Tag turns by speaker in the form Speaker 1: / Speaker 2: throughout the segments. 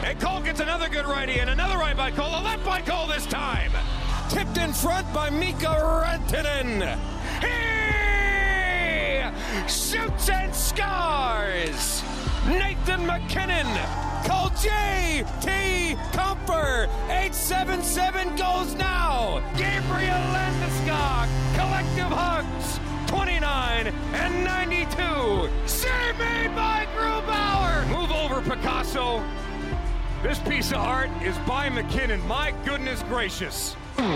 Speaker 1: And Cole gets another good righty, and another right by Cole. A left by Cole this time. Tipped in front by Mika Rantanen. He shoots and scores. Nathan MacKinnon. Cole J.T. Comfer. 877 goes now. Gabriel Landeskog. Collective hugs. 29 and 92. Save made by Grubauer. Move over, Picasso. This piece of art is by MacKinnon. My goodness gracious.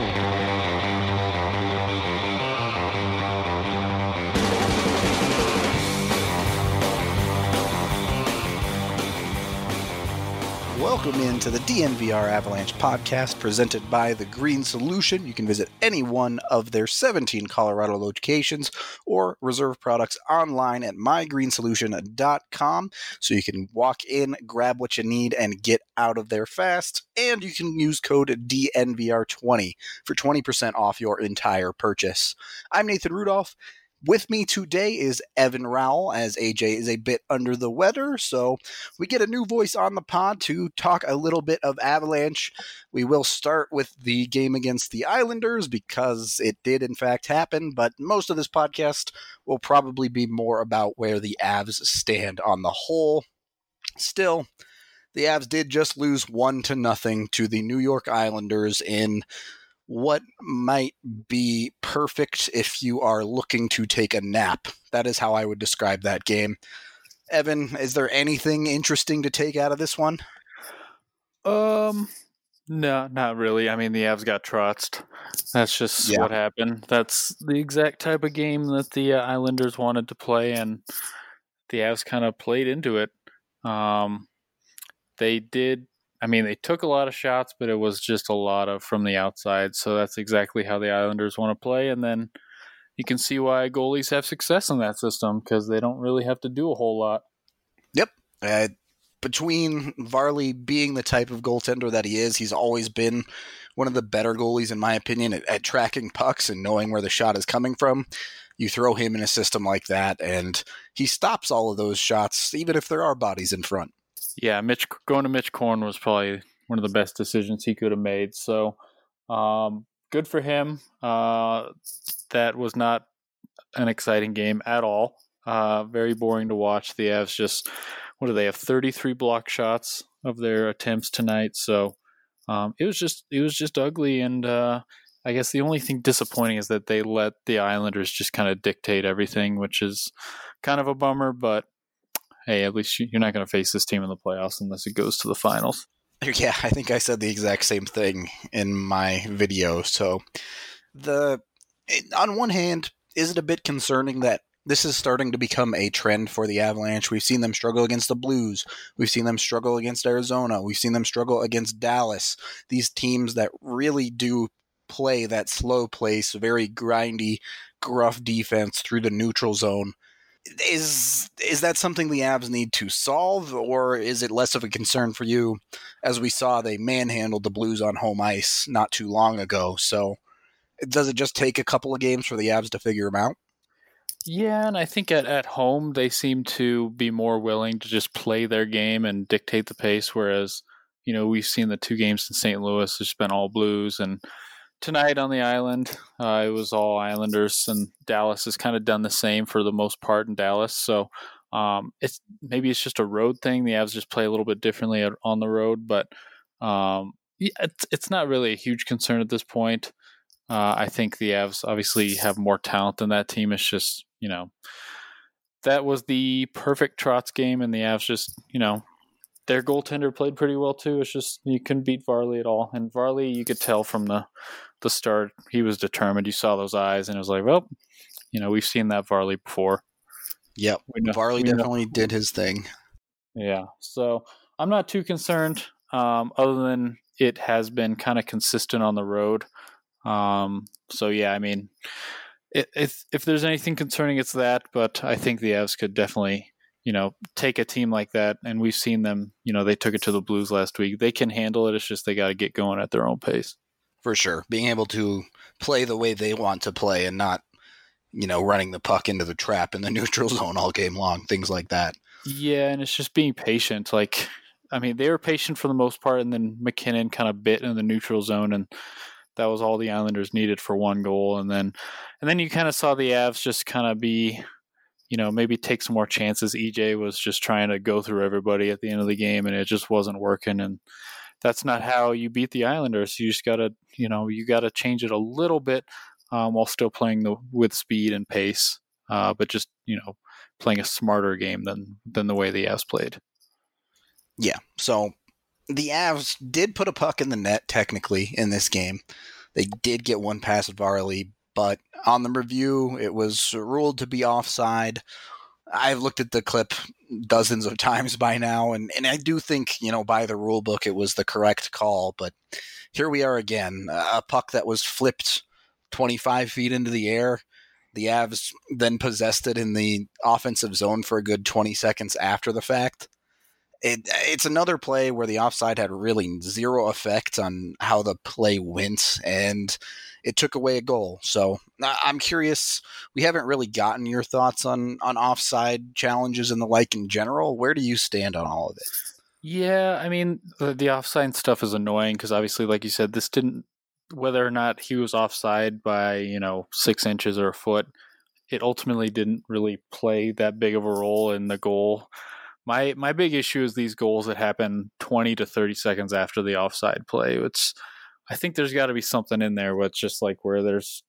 Speaker 2: Welcome into the DNVR Avalanche podcast presented by The Green Solution. You can visit any one of their 17 Colorado locations or reserve products online at mygreensolution.com. So you can walk in, grab what you need, and get out of there fast. And you can use code DNVR20 for 20% off your entire purchase. I'm Nathan Rudolph. With me today is Evan Rowell, as AJ is a bit under the weather, so we get a new voice on the pod to talk a little bit of Avalanche. We will start with the game against the Islanders because it did in fact happen, but most of this podcast will probably be more about where the Avs stand on the whole. Still, the Avs did just lose 1-0 to the New York Islanders in what might be perfect if you are looking to take a nap. That is how I would describe that game. Evan, is there anything interesting to take out of this one?
Speaker 3: No, not really. I mean, the Avs got trotzed. That's just what happened. That's the exact type of game that the Islanders wanted to play, and the Avs kind of played into it. They took a lot of shots, but it was just a lot of from the outside. So that's exactly how the Islanders want to play. And then you can see why goalies have success in that system because they don't really have to do a whole lot.
Speaker 2: Yep. Between Varley being the type of goaltender that he is, he's always been one of the better goalies, in my opinion, at tracking pucks and knowing where the shot is coming from. You throw him in a system like that, and he stops all of those shots, even if there are bodies in front.
Speaker 3: Yeah, going to Mitch Korn was probably one of the best decisions he could have made. So good for him. That was not an exciting game at all. Very boring to watch. The Avs just, what do they have? 33 block shots of their attempts tonight. So it was just ugly. And I guess the only thing disappointing is that they let the Islanders just kind of dictate everything, which is kind of a bummer, but hey, at least you're not going to face this team in the playoffs unless it goes to the finals.
Speaker 2: Yeah, I think I said the exact same thing in my video. So on one hand, is it a bit concerning that this is starting to become a trend for the Avalanche? We've seen them struggle against the Blues. We've seen them struggle against Arizona. We've seen them struggle against Dallas. These teams that really do play that slow pace, very grindy, gruff defense through the neutral zone. Is that something the Avs need to solve, or is it less of a concern for you? As we saw, they manhandled the Blues on home ice not too long ago. So does it just take a couple of games for the Avs to figure them out?
Speaker 3: Yeah, and I think at home they seem to be more willing to just play their game and dictate the pace, whereas, we've seen the two games in St. Louis, it's been all Blues, and tonight on the island, it was all Islanders, and Dallas has kind of done the same for the most part in Dallas. So it's just a road thing. The Avs just play a little bit differently on the road, but it's not really a huge concern at this point. I think the Avs obviously have more talent than that team. It's just, that was the perfect Trotz game, and the Avs just, their goaltender played pretty well too. It's just you couldn't beat Varley at all. And Varley, you could tell from the start, he was determined. You saw those eyes, and it was like, well, we've seen that Varley before.
Speaker 2: Yep, Varley definitely did his thing.
Speaker 3: Yeah, so I'm not too concerned, other than it has been kind of consistent on the road. So yeah, I mean, if there's anything concerning, it's that. But I think the Avs could definitely, take a team like that, and we've seen them. They took it to the Blues last week. They can handle it. It's just they got to get going at their own pace.
Speaker 2: For sure, being able to play the way they want to play and not, running the puck into the trap in the neutral zone all game long, things like that.
Speaker 3: Yeah, and it's just being patient. Like I mean, they were patient for the most part, and then McKinnon kind of bit in the neutral zone, and that was all the Islanders needed for one goal. And then you kind of saw the Avs just kind of be, maybe take some more chances. EJ was just trying to go through everybody at the end of the game, and it just wasn't working. And that's not how you beat the Islanders. You just gotta, you gotta change it a little bit while still playing with speed and pace, but just playing a smarter game than the way the Avs played.
Speaker 2: Yeah. So the Avs did put a puck in the net technically in this game. They did get one pass at Varley, but on the review, it was ruled to be offside. I've looked at the clip dozens of times by now, and I do think, by the rule book, it was the correct call. But here we are again, a puck that was flipped 25 feet into the air. The Avs then possessed it in the offensive zone for a good 20 seconds after the fact. It's another play where the offside had really zero effect on how the play went, and it took away a goal. So I'm curious, we haven't really gotten your thoughts on offside challenges and the like in general. Where do you stand on all of it?
Speaker 3: Yeah, I mean, the offside stuff is annoying because obviously, like you said, this didn't, whether or not he was offside by, 6 inches or a foot, it ultimately didn't really play that big of a role in the goal. My big issue is these goals that happen 20 to 30 seconds after the offside play. I think there's got to be something in there where it's just like where there's,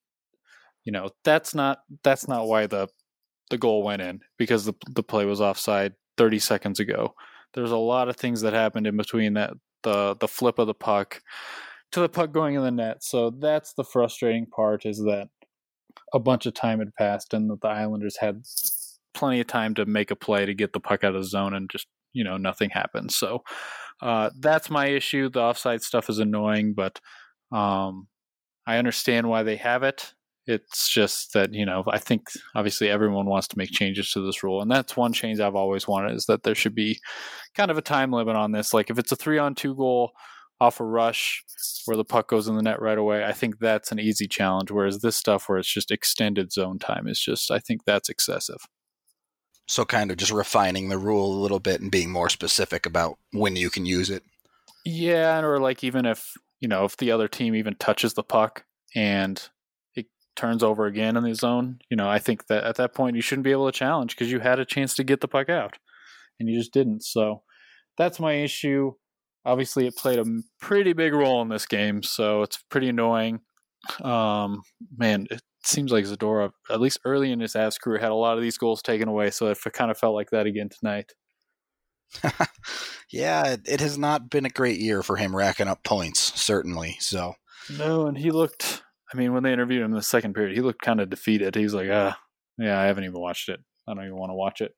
Speaker 3: that's not why the goal went in, because the play was offside 30 seconds ago. There's a lot of things that happened in between that, the flip of the puck to the puck going in the net. So that's the frustrating part, is that a bunch of time had passed and that the Islanders had plenty of time to make a play to get the puck out of the zone, and just, nothing happened. So that's my issue. The offside stuff is annoying, but I understand why they have it. It's just that, I think obviously everyone wants to make changes to this rule. And that's one change I've always wanted, is that there should be kind of a time limit on this. Like if it's a 3-on-2 goal off a rush where the puck goes in the net right away, I think that's an easy challenge. Whereas this stuff where it's just extended zone time is just, I think that's excessive.
Speaker 2: So kind of just refining the rule a little bit and being more specific about when you can use it.
Speaker 3: Yeah, or like even if, if the other team even touches the puck and it turns over again in the zone, I think that at that point you shouldn't be able to challenge, because you had a chance to get the puck out and you just didn't. So that's my issue. Obviously, it played a pretty big role in this game, so it's pretty annoying. Man, it seems like Zadorov, at least early in his Avs career, had a lot of these goals taken away, so it kind of felt like that again tonight.
Speaker 2: Yeah, it has not been a great year for him racking up points, certainly. So
Speaker 3: no, and he looked, when they interviewed him in the second period, he looked kind of defeated. He's like, yeah, I haven't even watched it. I don't even want to watch it.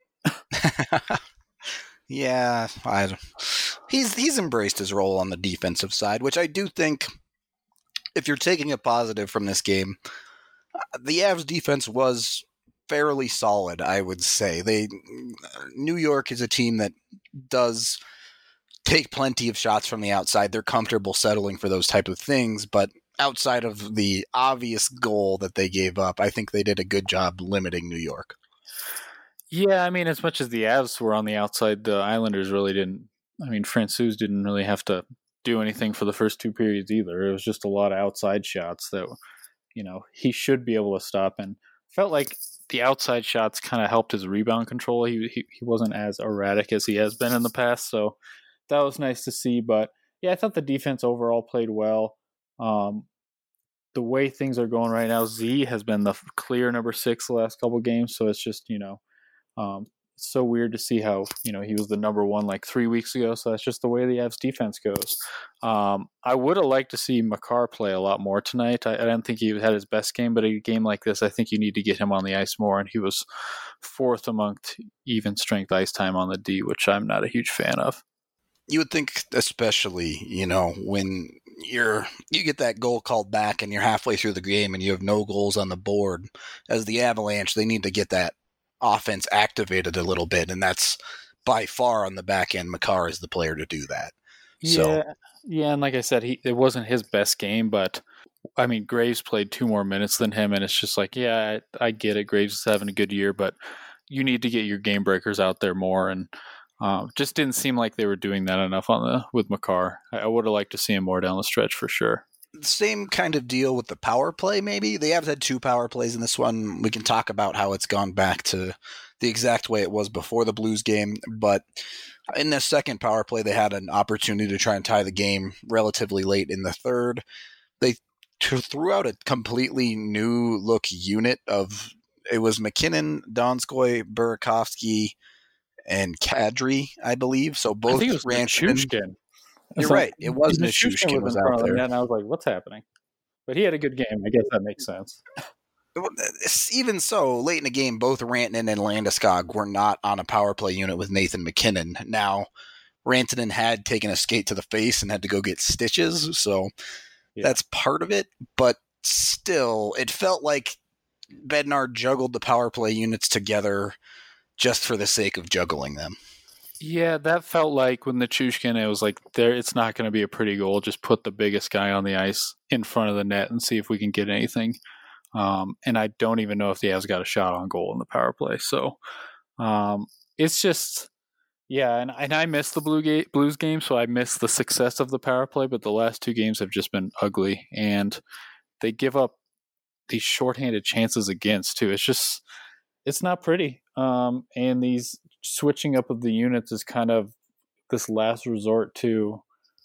Speaker 2: Yeah, he's embraced his role on the defensive side, which I do think, if you're taking a positive from this game, the Avs defense was fairly solid, I would say. New York is a team that does take plenty of shots from the outside. They're comfortable settling for those type of things, but outside of the obvious goal that they gave up, I think they did a good job limiting New York.
Speaker 3: Yeah, as much as the Avs were on the outside, the Islanders really didn't. Francouz didn't really have to do anything for the first 2 periods either. It was just a lot of outside shots that, he should be able to stop, and felt like the outside shots kind of helped his rebound control. He wasn't as erratic as he has been in the past, so that was nice to see. But yeah, I thought the defense overall played well. The way things are going right now, Z has been the clear number 6 the last couple of games, so it's just, it's so weird to see how, he was the number 1 like 3 weeks ago. So that's just the way the Avs defense goes. I would have liked to see Makar play a lot more tonight. I don't think he had his best game, but a game like this, I think you need to get him on the ice more. And he was 4th amongst even strength ice time on the D, which I'm not a huge fan of.
Speaker 2: You would think, especially, when you get that goal called back and you're halfway through the game and you have no goals on the board, as the Avalanche, they need to get that offense activated a little bit, and that's by far on the back end. Makar is the player to do that.
Speaker 3: Yeah, and like I said, it wasn't his best game, but Graves played 2 more minutes than him, and it's just like, yeah, I get it. Graves is having a good year, but you need to get your game breakers out there more, and Just didn't seem like they were doing that enough with Makar. I would have liked to see him more down the stretch for sure.
Speaker 2: Same kind of deal with the power play, maybe. They have had 2 power plays in this one. We can talk about how it's gone back to the exact way it was before the Blues game, but in the second power play, they had an opportunity to try and tie the game relatively late in the third. They threw out a completely new look unit it was McKinnon, Donskoy, Burakovsky, and Kadri, I believe. So both
Speaker 3: I think it was
Speaker 2: Nichushkin. You're right. It was Nichushkin was out there.
Speaker 3: And I was like, what's happening? But he had a good game. I guess that makes sense.
Speaker 2: Even so, late in the game, both Rantanen and Landeskog were not on a power play unit with Nathan McKinnon. Now, Rantanen had taken a skate to the face and had to go get stitches, so that's part of it. But still, it felt like Bednar juggled the power play units together just for the sake of juggling them.
Speaker 3: Yeah, that felt like with Nichushkin, it was like, it's not going to be a pretty goal. Just put the biggest guy on the ice in front of the net and see if we can get anything. And I don't even know if the Avs got a shot on goal in the power play. So it's just, and I missed the Blues game, so I missed the success of the power play, but the last 2 games have just been ugly, and they give up these shorthanded chances against, too. It's not pretty. And these switching up of the units is kind of this last resort to,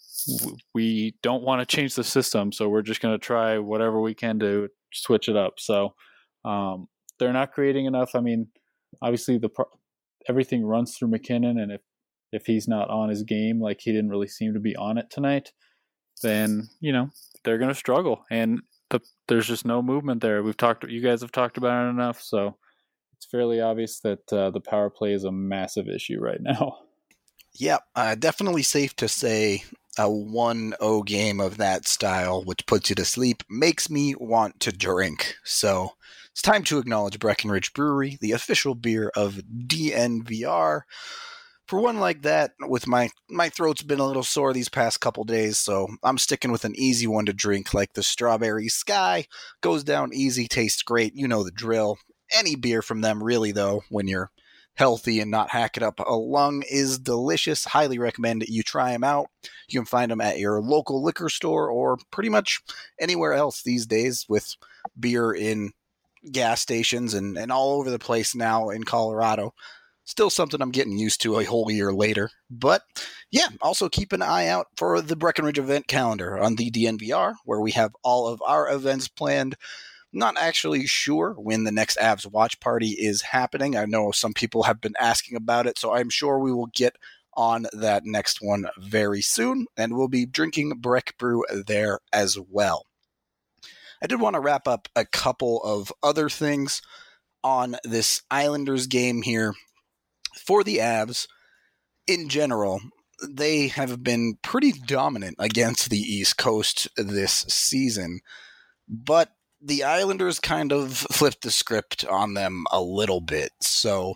Speaker 3: we don't want to change the system, so we're just going to try whatever we can to switch it up. So they're not creating enough. I mean, obviously everything runs through McKinnon, and if he's not on his game, like he didn't really seem to be on it tonight, then they're going to struggle, and there's just no movement there. You guys have talked about it enough, so it's fairly obvious that the power play is a massive issue right now.
Speaker 2: Yeah, definitely safe to say a 1-0 game of that style, which puts you to sleep, makes me want to drink. So it's time to acknowledge Breckenridge Brewery, the official beer of DNVR. For one like that, with my throat's been a little sore these past couple days, so I'm sticking with an easy one to drink, like the Strawberry Sky. Goes down easy, tastes great, you know the drill. Any beer from them, really, though, when you're healthy and not hacking up a lung, is delicious. Highly recommend you try them out. You can find them at your local liquor store or pretty much anywhere else these days, with beer in gas stations and all over the place now in Colorado. Still something I'm getting used to a whole year later. But yeah, also keep an eye out for the Breckenridge event calendar on the DNVR, where we have all of our events planned. Not actually sure when the next Avs watch party is happening. I know some people have been asking about it, so I'm sure we will get on that next one very soon, and we'll be drinking Breck Brew there as well. I did want to wrap up a couple of other things on this Islanders game here. For the Avs, in general, they have been pretty dominant against the East Coast this season, but the Islanders kind of flipped the script on them a little bit. So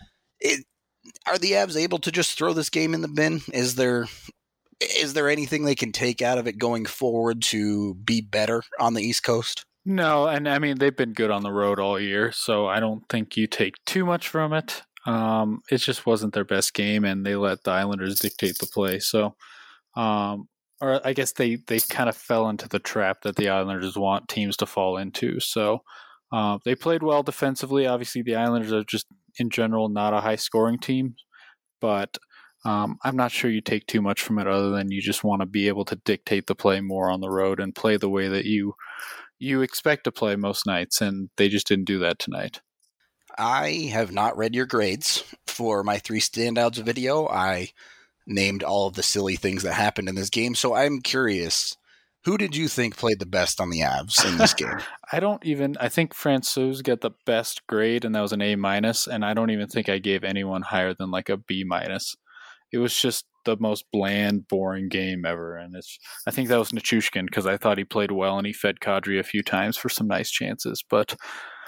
Speaker 2: are the Avs able to just throw this game in the bin? Is there anything they can take out of it going forward to be better on the East Coast?
Speaker 3: No, and I mean, they've been good on the road all year, so I don't think you take too much from it. It just wasn't their best game, and they let the Islanders dictate the play. So, or I guess they kind of fell into the trap that the Islanders want teams to fall into. So they played well defensively. Obviously, the Islanders are just, in general, not a high-scoring team. But I'm not sure you take too much from it other than you just want to be able to dictate the play more on the road and play the way that you expect to play most nights, and they just didn't do that tonight.
Speaker 2: I have not read your grades for my 3 standouts video. I named all of the silly things that happened in this game, so I'm curious, who did you think played the best on the Avs in this game?
Speaker 3: I think Francouz got the best grade, and that was an A-, and I don't even think I gave anyone higher than like a B-. It was just the most bland, boring game ever, and I think that was Nichushkin, because I thought he played well, and he fed Kadri a few times for some nice chances, but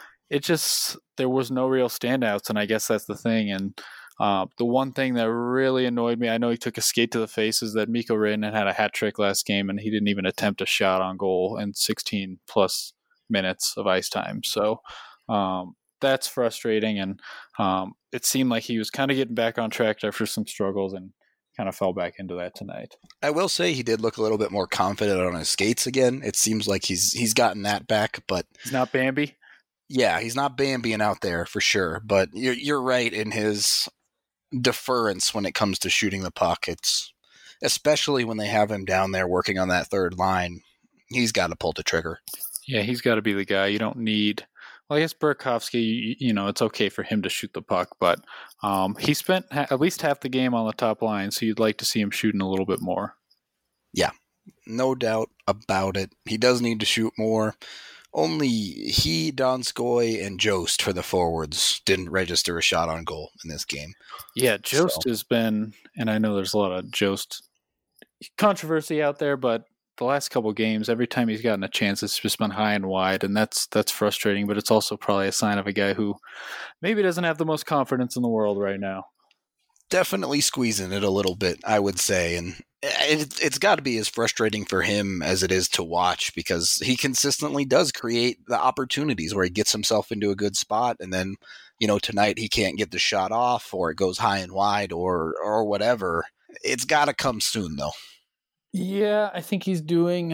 Speaker 3: there was no real standouts, and I guess that's the thing. And the one thing that really annoyed me, I know he took a skate to the face, is that Mikko Rantanen had a hat trick last game, and he didn't even attempt a shot on goal in 16 plus minutes of ice time. So that's frustrating. And it seemed like he was kind of getting back on track after some struggles and kind of fell back into that tonight.
Speaker 2: I will say he did look a little bit more confident on his skates again. It seems like he's gotten that back, but
Speaker 3: he's not Bambi.
Speaker 2: Yeah, he's not Bambiing out there for sure. But you're right in his deference when it comes to shooting the puck. It's especially when they have him down there working on that third line. He's got to pull the trigger.
Speaker 3: Yeah, he's got to be the guy. You don't need. Well, I guess Burakovsky, it's okay for him to shoot the puck, but he spent at least half the game on the top line, so you'd like to see him shooting a little bit more.
Speaker 2: Yeah, no doubt about it. He does need to shoot more. Only he, Donskoy, and Jost for the forwards didn't register a shot on goal in this game.
Speaker 3: Yeah, Jost has been, and I know there's a lot of Jost controversy out there, but the last couple of games, every time he's gotten a chance, it's just been high and wide, and that's frustrating, but it's also probably a sign of a guy who maybe doesn't have the most confidence in the world right now.
Speaker 2: Definitely squeezing it a little bit, I would say, and it's got to be as frustrating for him as it is to watch, because he consistently does create the opportunities where he gets himself into a good spot, and then, tonight he can't get the shot off, or it goes high and wide, or whatever. It's got to come soon, though.
Speaker 3: Yeah, I think he's doing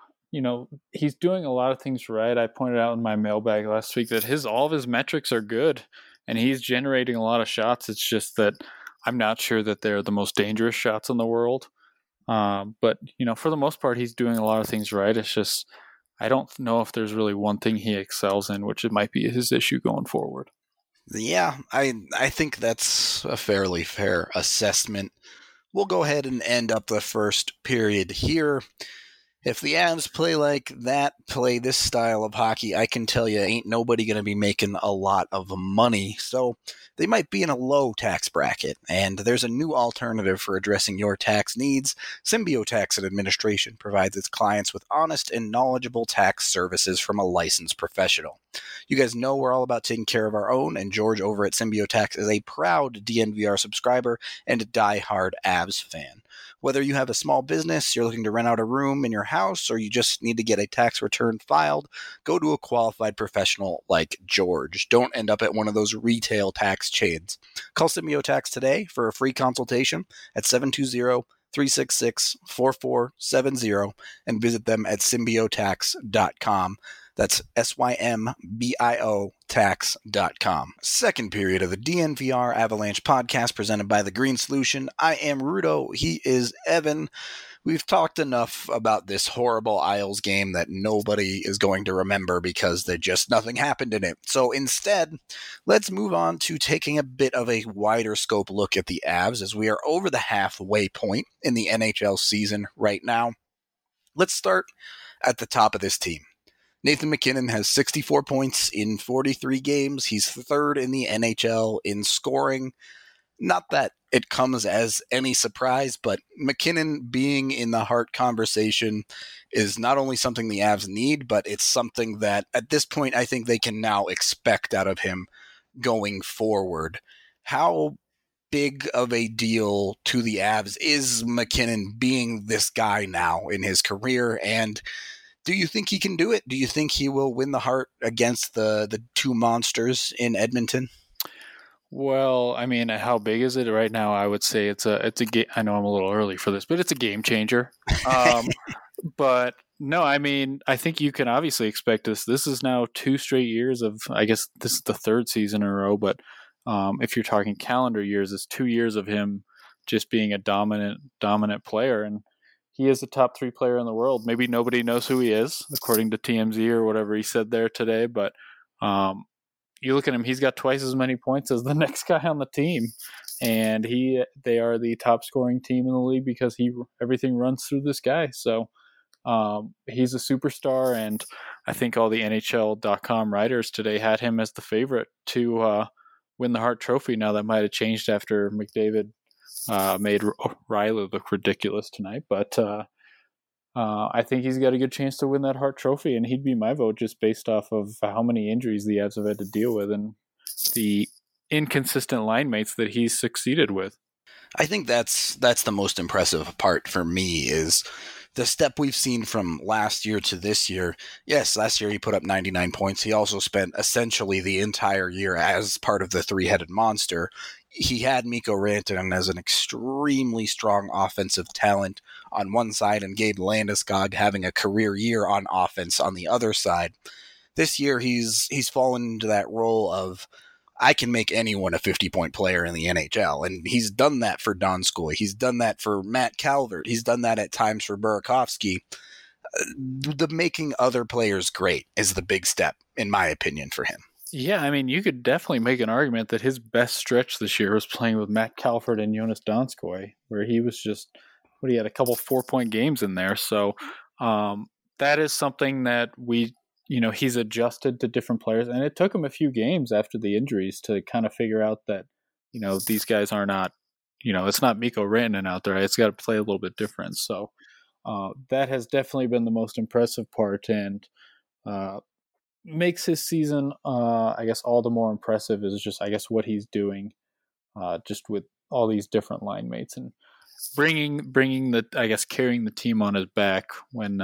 Speaker 3: a lot of things right. I pointed out in my mailbag last week that all of his metrics are good, and he's generating a lot of shots. It's just that I'm not sure that they're the most dangerous shots in the world. But, for the most part, he's doing a lot of things right. It's just, I don't know if there's really one thing he excels in, which it might be his issue going forward.
Speaker 2: Yeah, I think that's a fairly fair assessment. We'll go ahead and end up the first period here. If the Avs play this style of hockey, I can tell you ain't nobody going to be making a lot of money. So they might be in a low tax bracket, and there's a new alternative for addressing your tax needs. Symbio Tax and Administration provides its clients with honest and knowledgeable tax services from a licensed professional. You guys know we're all about taking care of our own, and George over at Symbio Tax is a proud DNVR subscriber and a die-hard Avs fan. Whether you have a small business, you're looking to rent out a room in your house, or you just need to get a tax return filed, go to a qualified professional like George. Don't end up at one of those retail tax chains. Call Symbio Tax today for a free consultation at 720-366-4470 and visit them at symbiotax.com. That's SYMBIO tax.com. Second period of the DNVR Avalanche podcast presented by The Green Solution. I am Rudo. He is Evan. We've talked enough about this horrible Isles game that nobody is going to remember because nothing happened in it. So instead, let's move on to taking a bit of a wider scope look at the Avs as we are over the halfway point in the NHL season right now. Let's start at the top of this team. Nathan MacKinnon has 64 points in 43 games. He's third in the NHL in scoring. Not that it comes as any surprise, but MacKinnon being in the Hart conversation is not only something the Avs need, but it's something that at this point I think they can now expect out of him going forward. How big of a deal to the Avs is MacKinnon being this guy now in his career, and do you think he can do it? Do you think he will win the Hart against the two monsters in Edmonton?
Speaker 3: Well, I mean, how big is it right now? I would say it's a game. I know I'm a little early for this, but it's a game changer. But no, I mean, I think you can obviously expect this. This is now 2 straight years of, I guess this is the 3rd season in a row, but if you're talking calendar years, it's 2 years of him just being a dominant player. And he is a top 3 player in the world. Maybe nobody knows who he is, according to TMZ or whatever he said there today. But you look at him, he's got twice as many points as the next guy on the team. And they are the top scoring team in the league because everything runs through this guy. So he's a superstar. And I think all the NHL.com writers today had him as the favorite to win the Hart Trophy. Now that might have changed after McDavid made Riley look ridiculous tonight, but I think he's got a good chance to win that Hart Trophy, and he'd be my vote just based off of how many injuries the Avs have had to deal with and the inconsistent line mates that he's succeeded with.
Speaker 2: I think that's the most impressive part for me is the step we've seen from last year to this year, yes, last year he put up 99 points. He also spent essentially the entire year as part of the three-headed monster. He had Mikko Rantanen as an extremely strong offensive talent on one side and Gabe Landeskog having a career year on offense on the other side. This year he's fallen into that role of, I can make anyone a 50-point player in the NHL. And he's done that for Donskoy. He's done that for Matt Calvert. He's done that at times for Burakovsky. The making other players great is the big step, in my opinion, for him.
Speaker 3: Yeah, I mean, you could definitely make an argument that his best stretch this year was playing with Matt Calvert and Jonas Donskoy, where he was just, he had a couple 4-point games in there. So that is something that he's adjusted to different players, and it took him a few games after the injuries to kind of figure out that, these guys are not, it's not Mikko Rantanen out there. It's got to play a little bit different. So that has definitely been the most impressive part, and makes his season, I guess, all the more impressive is just, I guess, what he's doing just with all these different line mates and bringing carrying the team on his back when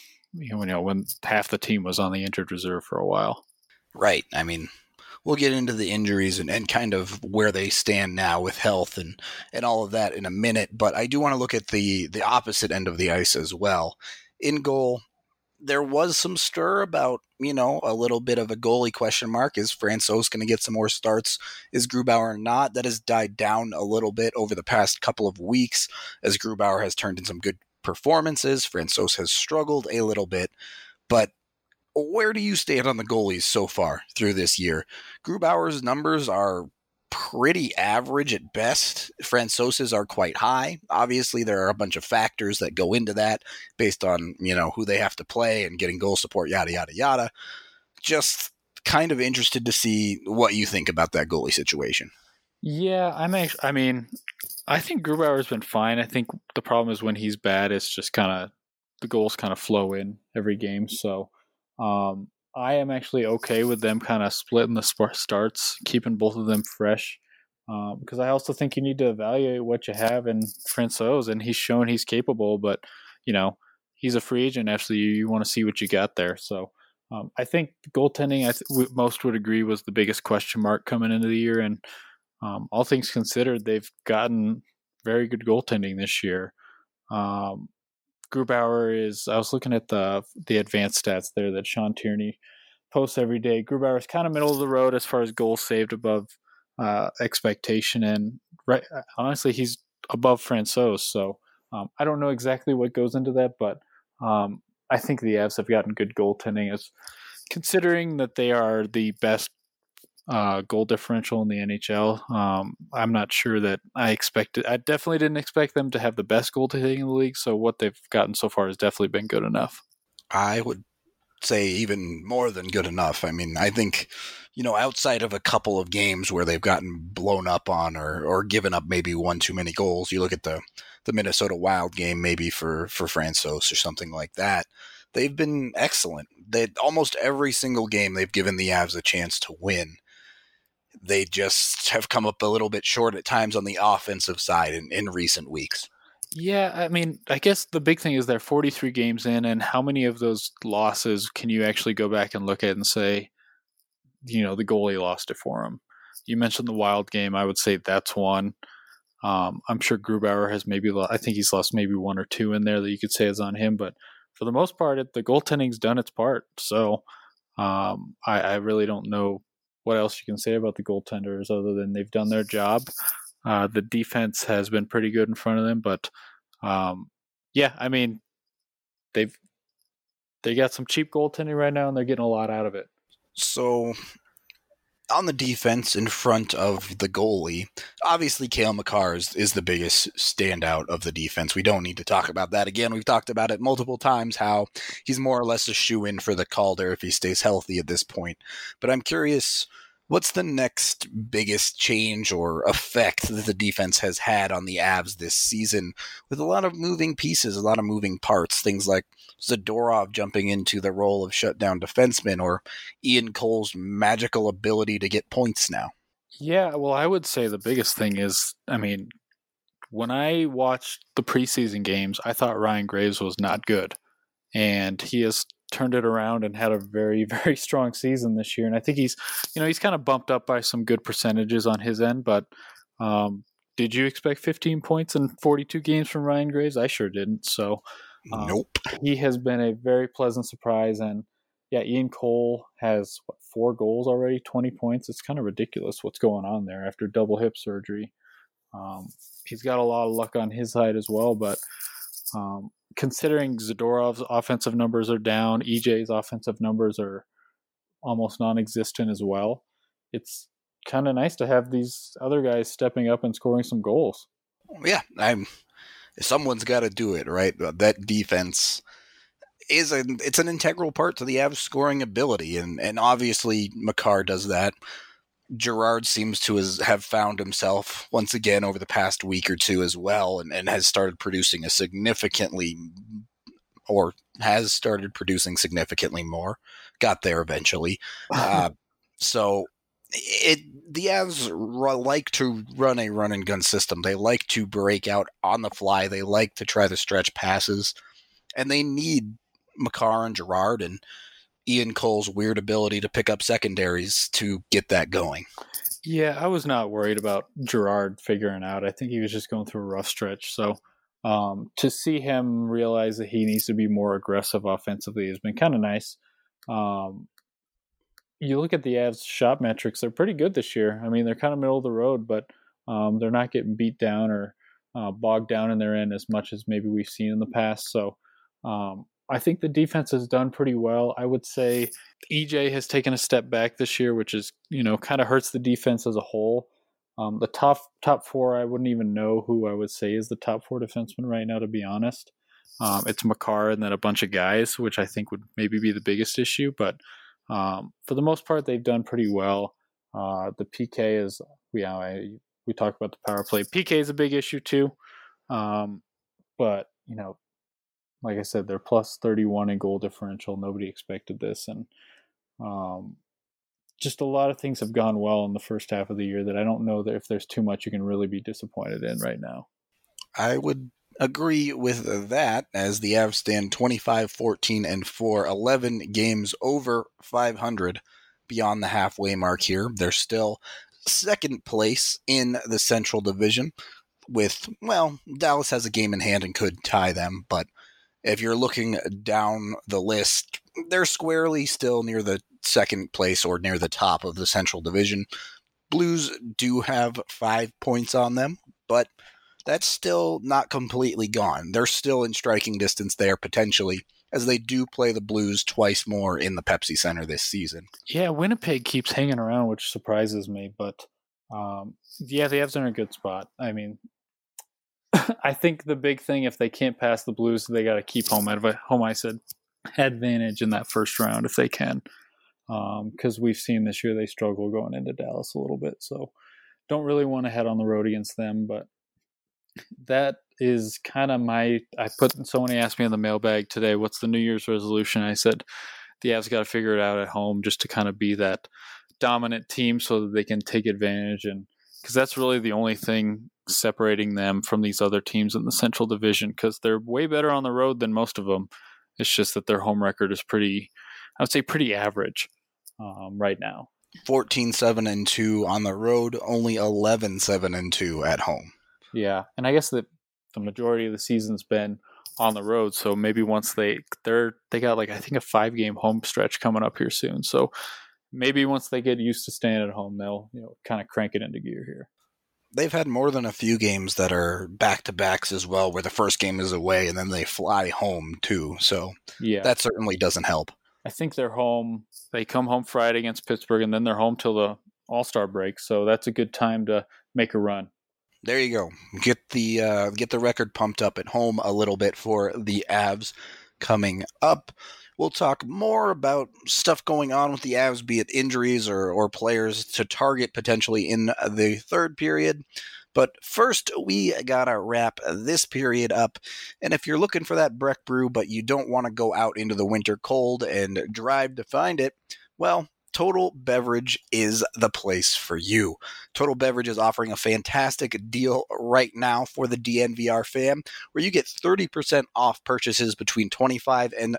Speaker 3: half the team was on the injured reserve for a while.
Speaker 2: Right. I mean, we'll get into the injuries and kind of where they stand now with health and all of that in a minute, but I do want to look at the opposite end of the ice as well. In goal, there was some stir about, a little bit of a goalie question mark. Is Francouz going to get some more starts? Is Grubauer not? That has died down a little bit over the past couple of weeks as Grubauer has turned in some good performances. Francouz has struggled a little bit, but where do you stand on the goalies so far through this year? Grubauer's numbers are pretty average at best. Francouz's are quite high. Obviously, there are a bunch of factors that go into that based on, who they have to play and getting goal support, yada, yada, yada. Just kind of interested to see what you think about that goalie situation.
Speaker 3: Yeah, I think Grubauer's been fine. I think the problem is when he's bad, it's just kind of the goals kind of flow in every game. So I am actually okay with them kind of splitting the starts, keeping both of them fresh. Because I also think you need to evaluate what you have in Francouz, and he's shown he's capable, but, he's a free agent. Actually, you want to see what you got there. So I think goaltending, most would agree, was the biggest question mark coming into the year. And all things considered, they've gotten very good goaltending this year. Grubauer is, I was looking at the advanced stats there that Sean Tierney posts every day. Grubauer is kind of middle of the road as far as goals saved above expectation. And honestly, he's above Francouz. So I don't know exactly what goes into that, but I think the Avs have gotten good goaltending, as considering that they are the best goal differential in the NHL. I'm not sure that I definitely didn't expect them to have the best goaltending in the league. So what they've gotten so far has definitely been good enough.
Speaker 2: I would say even more than good enough. I mean, I think, outside of a couple of games where they've gotten blown up on or given up maybe one too many goals, you look at the Minnesota Wild game maybe for Francouz or something like that. They've been excellent. Almost every single game they've given the Avs a chance to win. They just have come up a little bit short at times on the offensive side in recent weeks.
Speaker 3: Yeah, I mean, I guess the big thing is they're 43 games in, and how many of those losses can you actually go back and look at and say, the goalie lost it for them? You mentioned the Wild game. I would say that's one. I'm sure Grubauer has I think he's lost maybe one or two in there that you could say is on him, but for the most part, the goaltending's done its part. So I really don't know what else you can say about the goaltenders other than they've done their job. The defense has been pretty good in front of them, but yeah, I mean, they got some cheap goaltending right now, and they're getting a lot out of it.
Speaker 2: So on the defense in front of the goalie, obviously Cale Makar is the biggest standout of the defense. We don't need to talk about that again. We've talked about it multiple times, how he's more or less a shoo-in for the Calder if he stays healthy at this point. But I'm curious, what's the next biggest change or effect that the defense has had on the Avs this season, with a lot of moving pieces, a lot of moving parts, things like Zadorov jumping into the role of shutdown defenseman, or Ian Cole's magical ability to get points now?
Speaker 3: Yeah, well, I would say the biggest thing is, when I watched the preseason games, I thought Ryan Graves was not good. And he has turned it around and had a very, very strong season this year. And I think he's kind of bumped up by some good percentages on his end. But did you expect 15 points in 42 games from Ryan Graves? I sure didn't. So
Speaker 2: nope.
Speaker 3: He has been a very pleasant surprise. And yeah, Ian Cole has 4 goals already, 20 points. It's kind of ridiculous what's going on there after double hip surgery. He's got a lot of luck on his side as well, but considering Zadorov's offensive numbers are down, EJ's offensive numbers are almost non-existent as well, it's kind of nice to have these other guys stepping up and scoring some goals.
Speaker 2: Yeah, someone's got to do it, right? That defense it's an integral part to the Avs scoring ability, and obviously Makar does that. Girard seems to have found himself once again over the past week or two as well, and has started producing significantly more. Got there eventually. So the Avs like to run a run and gun system. They like to break out on the fly. They like to try to stretch passes, and they need Makar and Girard and Ian Cole's weird ability to pick up secondaries to get that going.
Speaker 3: Yeah, I was not worried about Girard figuring out. I think he was just going through a rough stretch. So to see him realize that he needs to be more aggressive offensively has been kind of nice. You look at the Avs shot metrics, they're pretty good this year. I mean, they're kind of middle of the road, but they're not getting beat down or bogged down in their end as much as maybe we've seen in the past. So I think the defense has done pretty well. I would say EJ has taken a step back this year, which is, kind of hurts the defense as a whole. The top 4, I wouldn't even know who I would say is the top 4 defenseman right now, to be honest. It's Makar and then a bunch of guys, which I think would maybe be the biggest issue. But for the most part, they've done pretty well. The PK is, we talked about the power play. PK is a big issue too. But, like I said, they're plus 31 in goal differential. Nobody expected this. And just a lot of things have gone well in the first half of the year that I don't know that if there's too much you can really be disappointed in right now.
Speaker 2: I would agree with that, as the Avs stand 25-14-4, 11 games over 500 beyond the halfway mark here. They're still second place in the Central Division with, Dallas has a game in hand and could tie them, but if you're looking down the list, they're squarely still near the second place or near the top of the Central Division. Blues do have 5 points on them, but that's still not completely gone. They're still in striking distance there, potentially, as they do play the Blues twice more in the Pepsi Center this season.
Speaker 3: Yeah, Winnipeg keeps hanging around, which surprises me, but the Avs are in a good spot. I mean, I think the big thing, if they can't pass the Blues, they got to keep home ice advantage in that first round if they can, because we've seen this year they struggle going into Dallas a little bit. So don't really want to head on the road against them, but that is kind of someone asked me in the mailbag today, what's the New Year's resolution? I said, the Avs got to figure it out at home just to kind of be that dominant team so that they can take advantage, and because that's really the only thing separating them from these other teams in the Central Division, because they're way better on the road than most of them. It's just that their home record is pretty average right now.
Speaker 2: 14-7-2 on the road, only 11-7-2 at home.
Speaker 3: Yeah, and I guess that the majority of the season's been on the road, so maybe once they got I think a 5-game home stretch coming up here soon. So maybe once they get used to staying at home, they'll kind of crank it into gear here.
Speaker 2: They've had more than a few games that are back-to-backs as well, where the first game is away and then they fly home too. So yeah, that certainly doesn't help.
Speaker 3: I think they're home. They come home Friday against Pittsburgh, and then they're home till the All-Star break. So that's a good time to make a run.
Speaker 2: There you go. Get the record pumped up at home a little bit for the Avs coming up. We'll talk more about stuff going on with the Avs, be it injuries or players to target potentially in the third period. But first, we got to wrap this period up. And if you're looking for that Breck Brew, but you don't want to go out into the winter cold and drive to find it, well, Total Beverage is the place for you. Total Beverage is offering a fantastic deal right now for the DNVR fam, where you get 30% off purchases between $25 and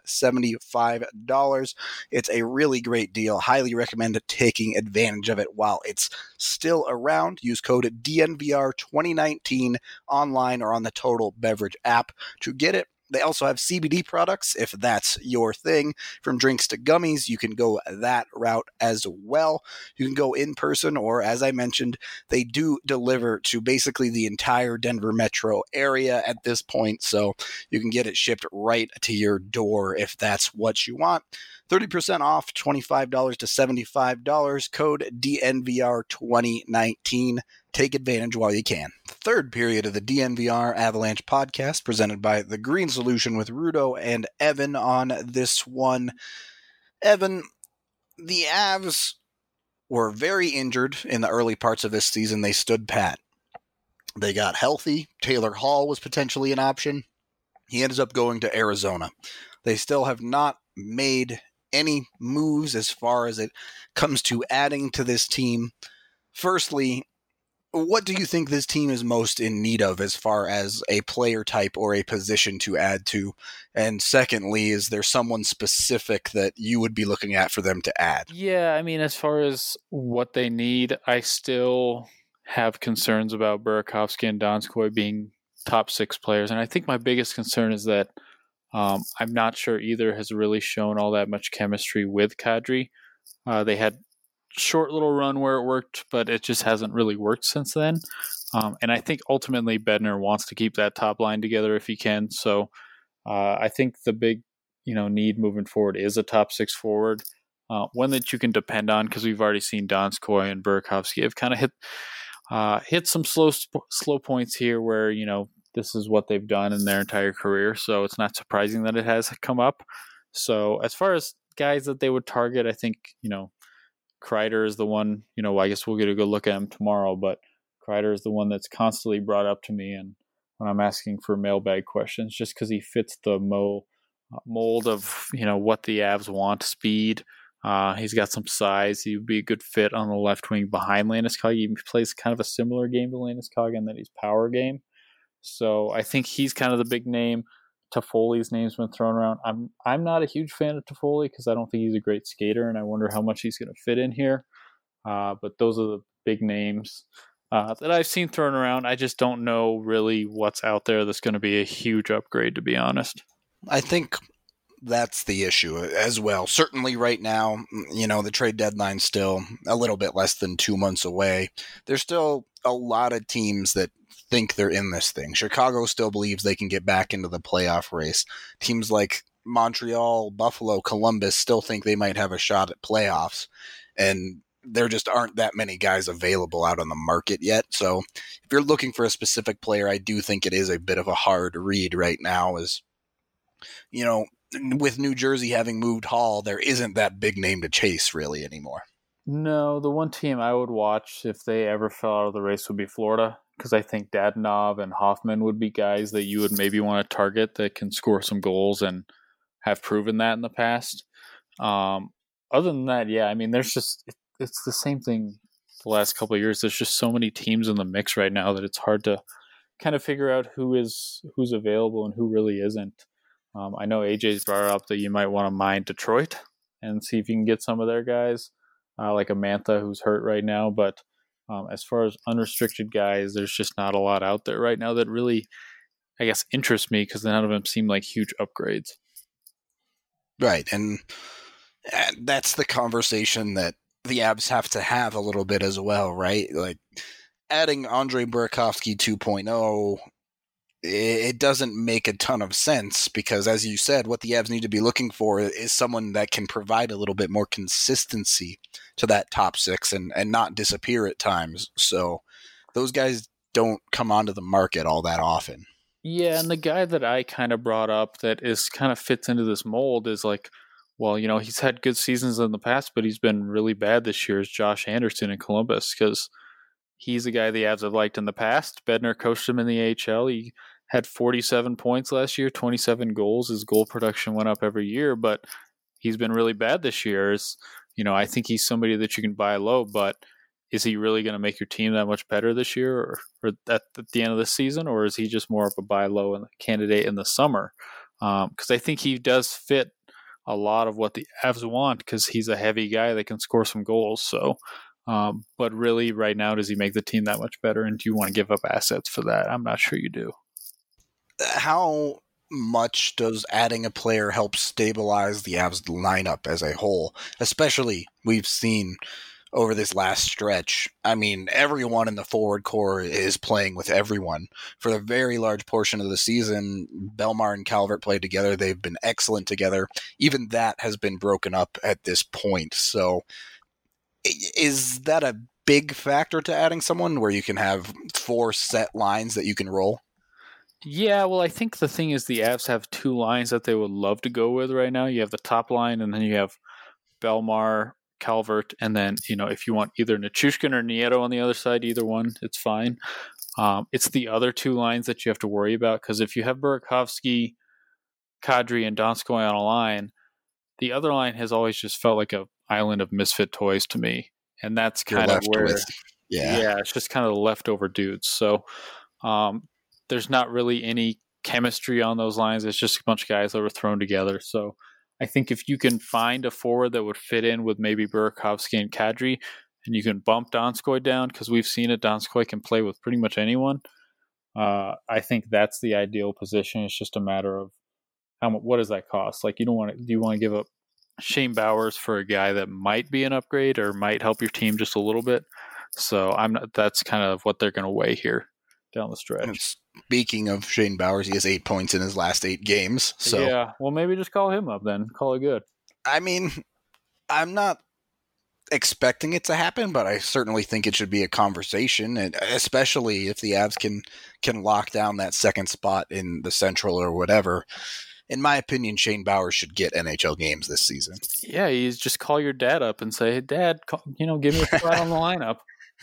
Speaker 2: $75. It's a really great deal. Highly recommend taking advantage of it while it's still around. Use code DNVR2019 online or on the Total Beverage app to get it. They also have CBD products, if that's your thing. From drinks to gummies, you can go that route as well. You can go in person, or as I mentioned, they do deliver to basically the entire Denver metro area at this point, so you can get it shipped right to your door if that's what you want. 30% off, $25 to $75, code DNVR2019. Take advantage while you can. Third period of the DNVR Avalanche podcast, presented by The Green Solution with Rudo and Evan on this one. Evan, the Avs were very injured in the early parts of this season. They stood pat. They got healthy. Taylor Hall was potentially an option. He ends up going to Arizona. They still have not made any moves as far as it comes to adding to this team. Firstly, what do you think this team is most in need of as far as a player type or a position to add to? And secondly, is there someone specific that you would be looking at for them to add?
Speaker 3: Yeah, I mean, as far as what they need, I still have concerns about Burakovsky and Donskoy being top 6 players. And I think my biggest concern is that I'm not sure either has really shown all that much chemistry with Kadri. They had short little run where it worked, but it just hasn't really worked since then. And I think ultimately Bednar wants to keep that top line together if he can. So I think the big, need moving forward is a top 6 forward, one that you can depend on, because we've already seen Donskoy and Burakovsky have kind of hit some slow points here where this is what they've done in their entire career. So it's not surprising that it has come up. So as far as guys that they would target, I think Kreider is the one, I guess we'll get a good look at him tomorrow, but Kreider is the one that's constantly brought up to me and when I'm asking for mailbag questions, just because he fits the mold of, what the Avs want, speed. He's got some size. He would be a good fit on the left wing behind Landeskog. He plays kind of a similar game to Landeskog in that he's power game. So I think he's kind of the big name. Toffoli's name's been thrown around. I'm not a huge fan of Toffoli because I don't think he's a great skater, and I wonder how much he's going to fit in here. But those are the big names that I've seen thrown around. I just don't know really what's out there that's going to be a huge upgrade, to be honest.
Speaker 2: I think that's the issue as well. Certainly right now, the trade deadline's still a little bit less than 2 months away. There's still a lot of teams that think they're in this thing. Chicago still believes they can get back into the playoff race. Teams like Montreal, Buffalo, Columbus still think they might have a shot at playoffs. And there just aren't that many guys available out on the market yet. So if you're looking for a specific player, I do think it is a bit of a hard read right now. As with New Jersey having moved Hall, there isn't that big name to chase really anymore.
Speaker 3: No, the one team I would watch if they ever fell out of the race would be Florida, because I think Dadonov and Hoffman would be guys that you would maybe want to target that can score some goals and have proven that in the past. Other than that, yeah, I mean, it's the same thing the last couple of years. There's just so many teams in the mix right now that it's hard to kind of figure out who's available and who really isn't. I know AJ's brought up that you might want to mine Detroit and see if you can get some of their guys, like a Mantha who's hurt right now. But as far as unrestricted guys, there's just not a lot out there right now that really, I guess, interest me because none of them seem like huge upgrades.
Speaker 2: Right, and that's the conversation that the Avs have to have a little bit as well, right? Like, adding Andre Burakovsky 2.0, it doesn't make a ton of sense because, as you said, what the Avs need to be looking for is someone that can provide a little bit more consistency to that top 6 and not disappear at times. So those guys don't come onto the market all that often.
Speaker 3: Yeah, and the guy that I kind of brought up that is kind of fits into this mold is like, well, he's had good seasons in the past, but he's been really bad this year, is Josh Anderson in Columbus, because he's a guy the Avs have liked in the past. Bednar coached him in the AHL. He had 47 points last year, 27 goals. His goal production went up every year, but he's been really bad this year. I think he's somebody that you can buy low, but is he really going to make your team that much better this year or at the end of the season, or is he just more of a buy low candidate in the summer? Because I think he does fit a lot of what the Avs want because he's a heavy guy that can score some goals. So, but really right now, does he make the team that much better? And do you want to give up assets for that? I'm not sure you do.
Speaker 2: How much does adding a player help stabilize the Avs lineup as a whole? Especially we've seen over this last stretch. I mean, everyone in the forward core is playing with everyone. For a very large portion of the season, Bellemare and Calvert played together. They've been excellent together. Even that has been broken up at this point. So is that a big factor to adding someone where you can have 4 set lines that you can roll?
Speaker 3: Yeah, well, I think the thing is the Avs have 2 lines that they would love to go with right now. You have the top line, and then you have Bellemare, Calvert, and then, if you want either Nichushkin or Nieto on the other side, either one, it's fine. It's the other 2 lines that you have to worry about, because if you have Burakovsky, Kadri, and Donskoy on a line, the other line has always just felt like an island of misfit toys to me, and that's kind of where, it's just kind of the leftover dudes. So there's not really any chemistry on those lines. It's just a bunch of guys that were thrown together. So I think if you can find a forward that would fit in with maybe Burakovsky and Kadri, and you can bump Donskoy down, because we've seen it, Donskoy can play with pretty much anyone. I think that's the ideal position. It's just a matter of what does that cost? Like, do you want to give up Shane Bowers for a guy that might be an upgrade or might help your team just a little bit? So that's kind of what they're going to weigh here down the stretch.
Speaker 2: And speaking of Shane Bowers, he has 8 points in his last 8 games. So
Speaker 3: yeah, well, maybe just call him up then. Call it good.
Speaker 2: I mean, I'm not expecting it to happen, but I certainly think it should be a conversation, and especially if the Avs can lock down that second spot in the Central or whatever. In my opinion, Shane Bowers should get NHL games this season.
Speaker 3: Yeah, you just call your dad up and say, hey, Dad, give me a spot on the lineup.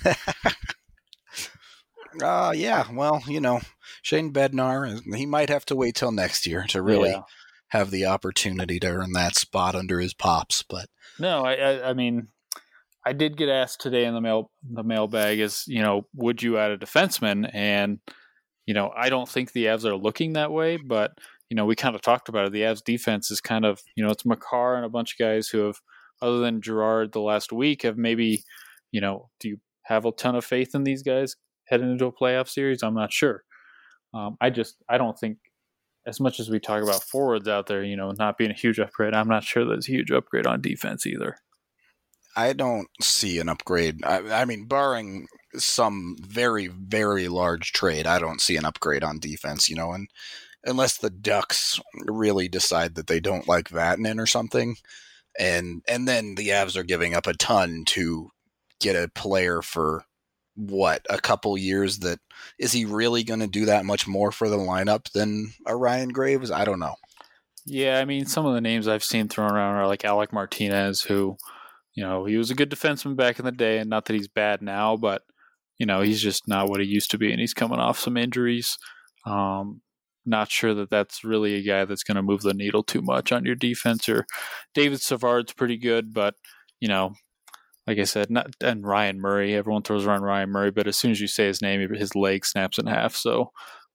Speaker 2: Yeah, well, Shane Bednar, he might have to wait till next year to really have the opportunity to earn that spot under his pops. But
Speaker 3: no, I mean, I did get asked today in the mailbag is, would you add a defenseman? And, I don't think the Avs are looking that way, but, we kind of talked about it. The Avs defense is kind of, it's Makar and a bunch of guys who have, other than Gerard the last week, have maybe, do you have a ton of faith in these guys heading into a playoff series? I'm not sure. I don't think, as much as we talk about forwards out there, not being a huge upgrade, I'm not sure there's a huge upgrade on defense either.
Speaker 2: I don't see an upgrade. I mean, barring some very, very large trade, I don't see an upgrade on defense, and unless the Ducks really decide that they don't like Vatanen or something, and then the Avs are giving up a ton to get a player for a couple years. That is he really going to do that much more for the lineup than a Ryan Graves? I don't know.
Speaker 3: Yeah, I mean, some of the names I've seen thrown around are like Alec Martinez, who, he was a good defenseman back in the day, and not that he's bad now, but, he's just not what he used to be, and he's coming off some injuries. Not sure that that's really a guy that's going to move the needle too much on your defense. Or David Savard's pretty good, but, like I said, and Ryan Murray, everyone throws around Ryan Murray, but as soon as you say his name, his leg snaps in half. So,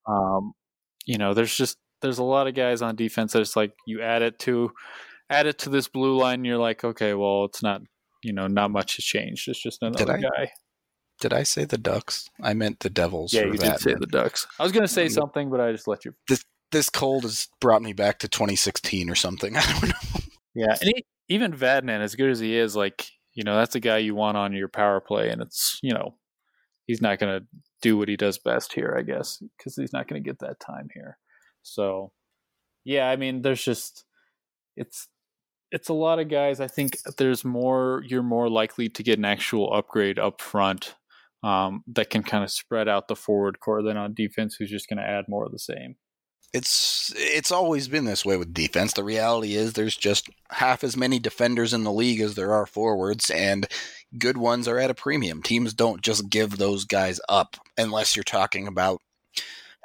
Speaker 3: there's a lot of guys on defense that it's like you add it to this blue line, and you're like, okay, well, it's not, not much has changed. It's just another guy.
Speaker 2: Did I say the Ducks? I meant the Devils.
Speaker 3: Yeah, you did say the Ducks. I was going to say something, but I just let you.
Speaker 2: This cold has brought me back to 2016 or something. I don't know.
Speaker 3: Yeah, and even Vatanen, as good as he is, like, that's a guy you want on your power play, and it's, he's not going to do what he does best here, I guess, because he's not going to get that time here. So, yeah, I mean, there's just, it's a lot of guys. I think you're more likely to get an actual upgrade up front that can kind of spread out the forward core than on defense, who's just going to add more of the same.
Speaker 2: It's always been this way with defense. The reality is there's just half as many defenders in the league as there are forwards, and good ones are at a premium. Teams don't just give those guys up unless you're talking about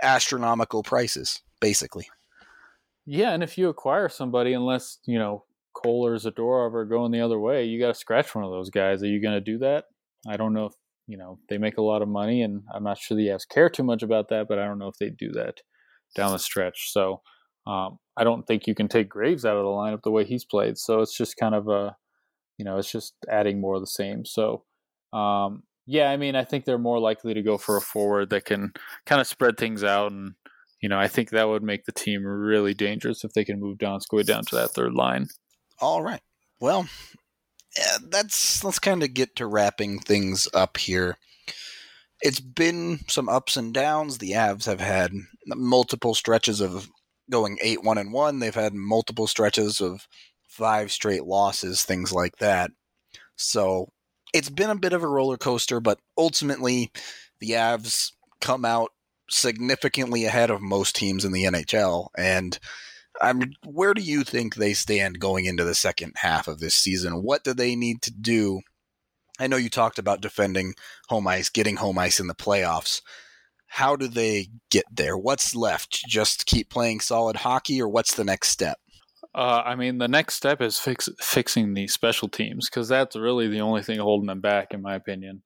Speaker 2: astronomical prices, basically.
Speaker 3: Yeah, and if you acquire somebody, unless, Cole or Zadorov are going the other way, you got to scratch one of those guys. Are you going to do that? I don't know if, they make a lot of money, and I'm not sure the Avs care too much about that, but I don't know if they do that down the stretch. So I don't think you can take Graves out of the lineup the way he's played. So it's just kind of it's just adding more of the same. So, I think they're more likely to go for a forward that can kind of spread things out. And, I think that would make the team really dangerous if they can move Donskoy down to that third line.
Speaker 2: All right. Well, let's kind of get to wrapping things up here. It's been some ups and downs. The Avs have had multiple stretches of going 8-1-1. They've had multiple stretches of 5 straight losses, things like that. So it's been a bit of a roller coaster, but ultimately the Avs come out significantly ahead of most teams in the NHL. And where do you think they stand going into the second half of this season? What do they need to do? I know you talked about defending home ice, getting home ice in the playoffs. How do they get there? What's left? Just keep playing solid hockey, or what's the next step?
Speaker 3: The next step is fixing the special teams, because that's really the only thing holding them back, in my opinion.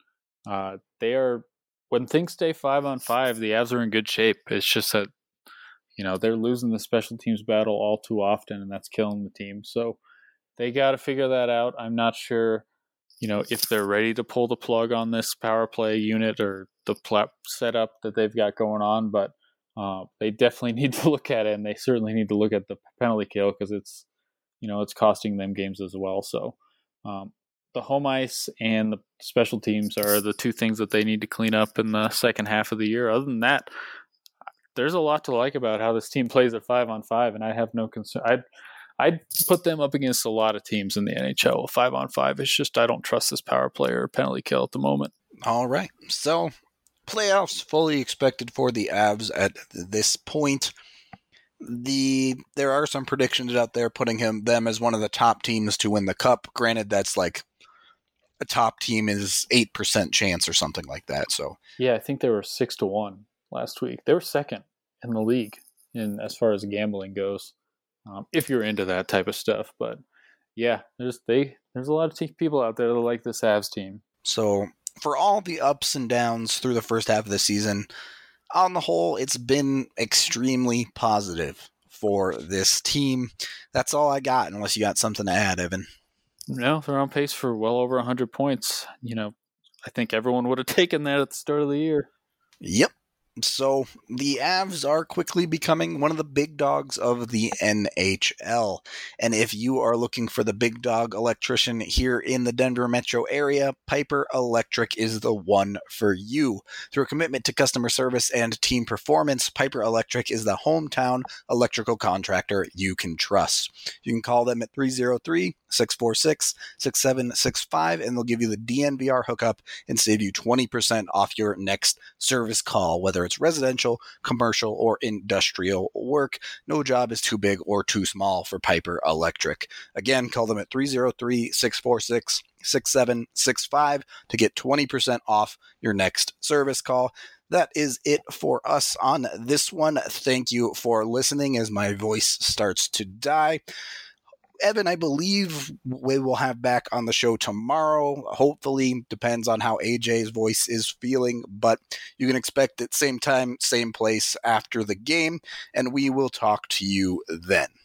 Speaker 3: When things stay 5-on-5, the Avs are in good shape. It's just that they're losing the special teams battle all too often, and that's killing the team. So they got to figure that out. I'm not sure, if they're ready to pull the plug on this power play unit or the setup that they've got going on, but they definitely need to look at it, and they certainly need to look at the penalty kill, because it's costing them games as well. So the home ice and the special teams are the two things that they need to clean up in the second half of the year. Other than that, there's a lot to like about how this team plays at 5-on-5, and I have no concern. I'd put them up against a lot of teams in the NHL. 5-on-5, it's just I don't trust this power play or penalty kill at the moment.
Speaker 2: All right. So playoffs fully expected for the Avs at this point. There are some predictions out there putting them as one of the top teams to win the Cup. Granted, that's like a top team is 8% chance or something like that. So
Speaker 3: yeah, I think they were 6-1 last week. They were second in the league as far as gambling goes, if you're into that type of stuff. But yeah, there's a lot of people out there that like this Avs team.
Speaker 2: So for all the ups and downs through the first half of the season, on the whole, it's been extremely positive for this team. That's all I got, unless you got something to add, Evan.
Speaker 3: No, they're on pace for well over 100 points. I think everyone would have taken that at the start of the year.
Speaker 2: Yep. So the Avs are quickly becoming one of the big dogs of the NHL. And if you are looking for the big dog electrician here in the Denver metro area, Piper Electric is the one for you. Through a commitment to customer service and team performance, Piper Electric is the hometown electrical contractor you can trust. You can call them at 303-646-6765, and they'll give you the DNVR hookup and save you 20% off your next service call, whether it's residential, commercial, or industrial work. No job is too big or too small for Piper Electric. Again, call them at 303-646-6765 to get 20% off your next service call. That is it for us on this one. Thank you for listening as my voice starts to die. Evan, I believe we will have back on the show tomorrow. Hopefully, depends on how AJ's voice is feeling, but you can expect it same time, same place after the game, and we will talk to you then.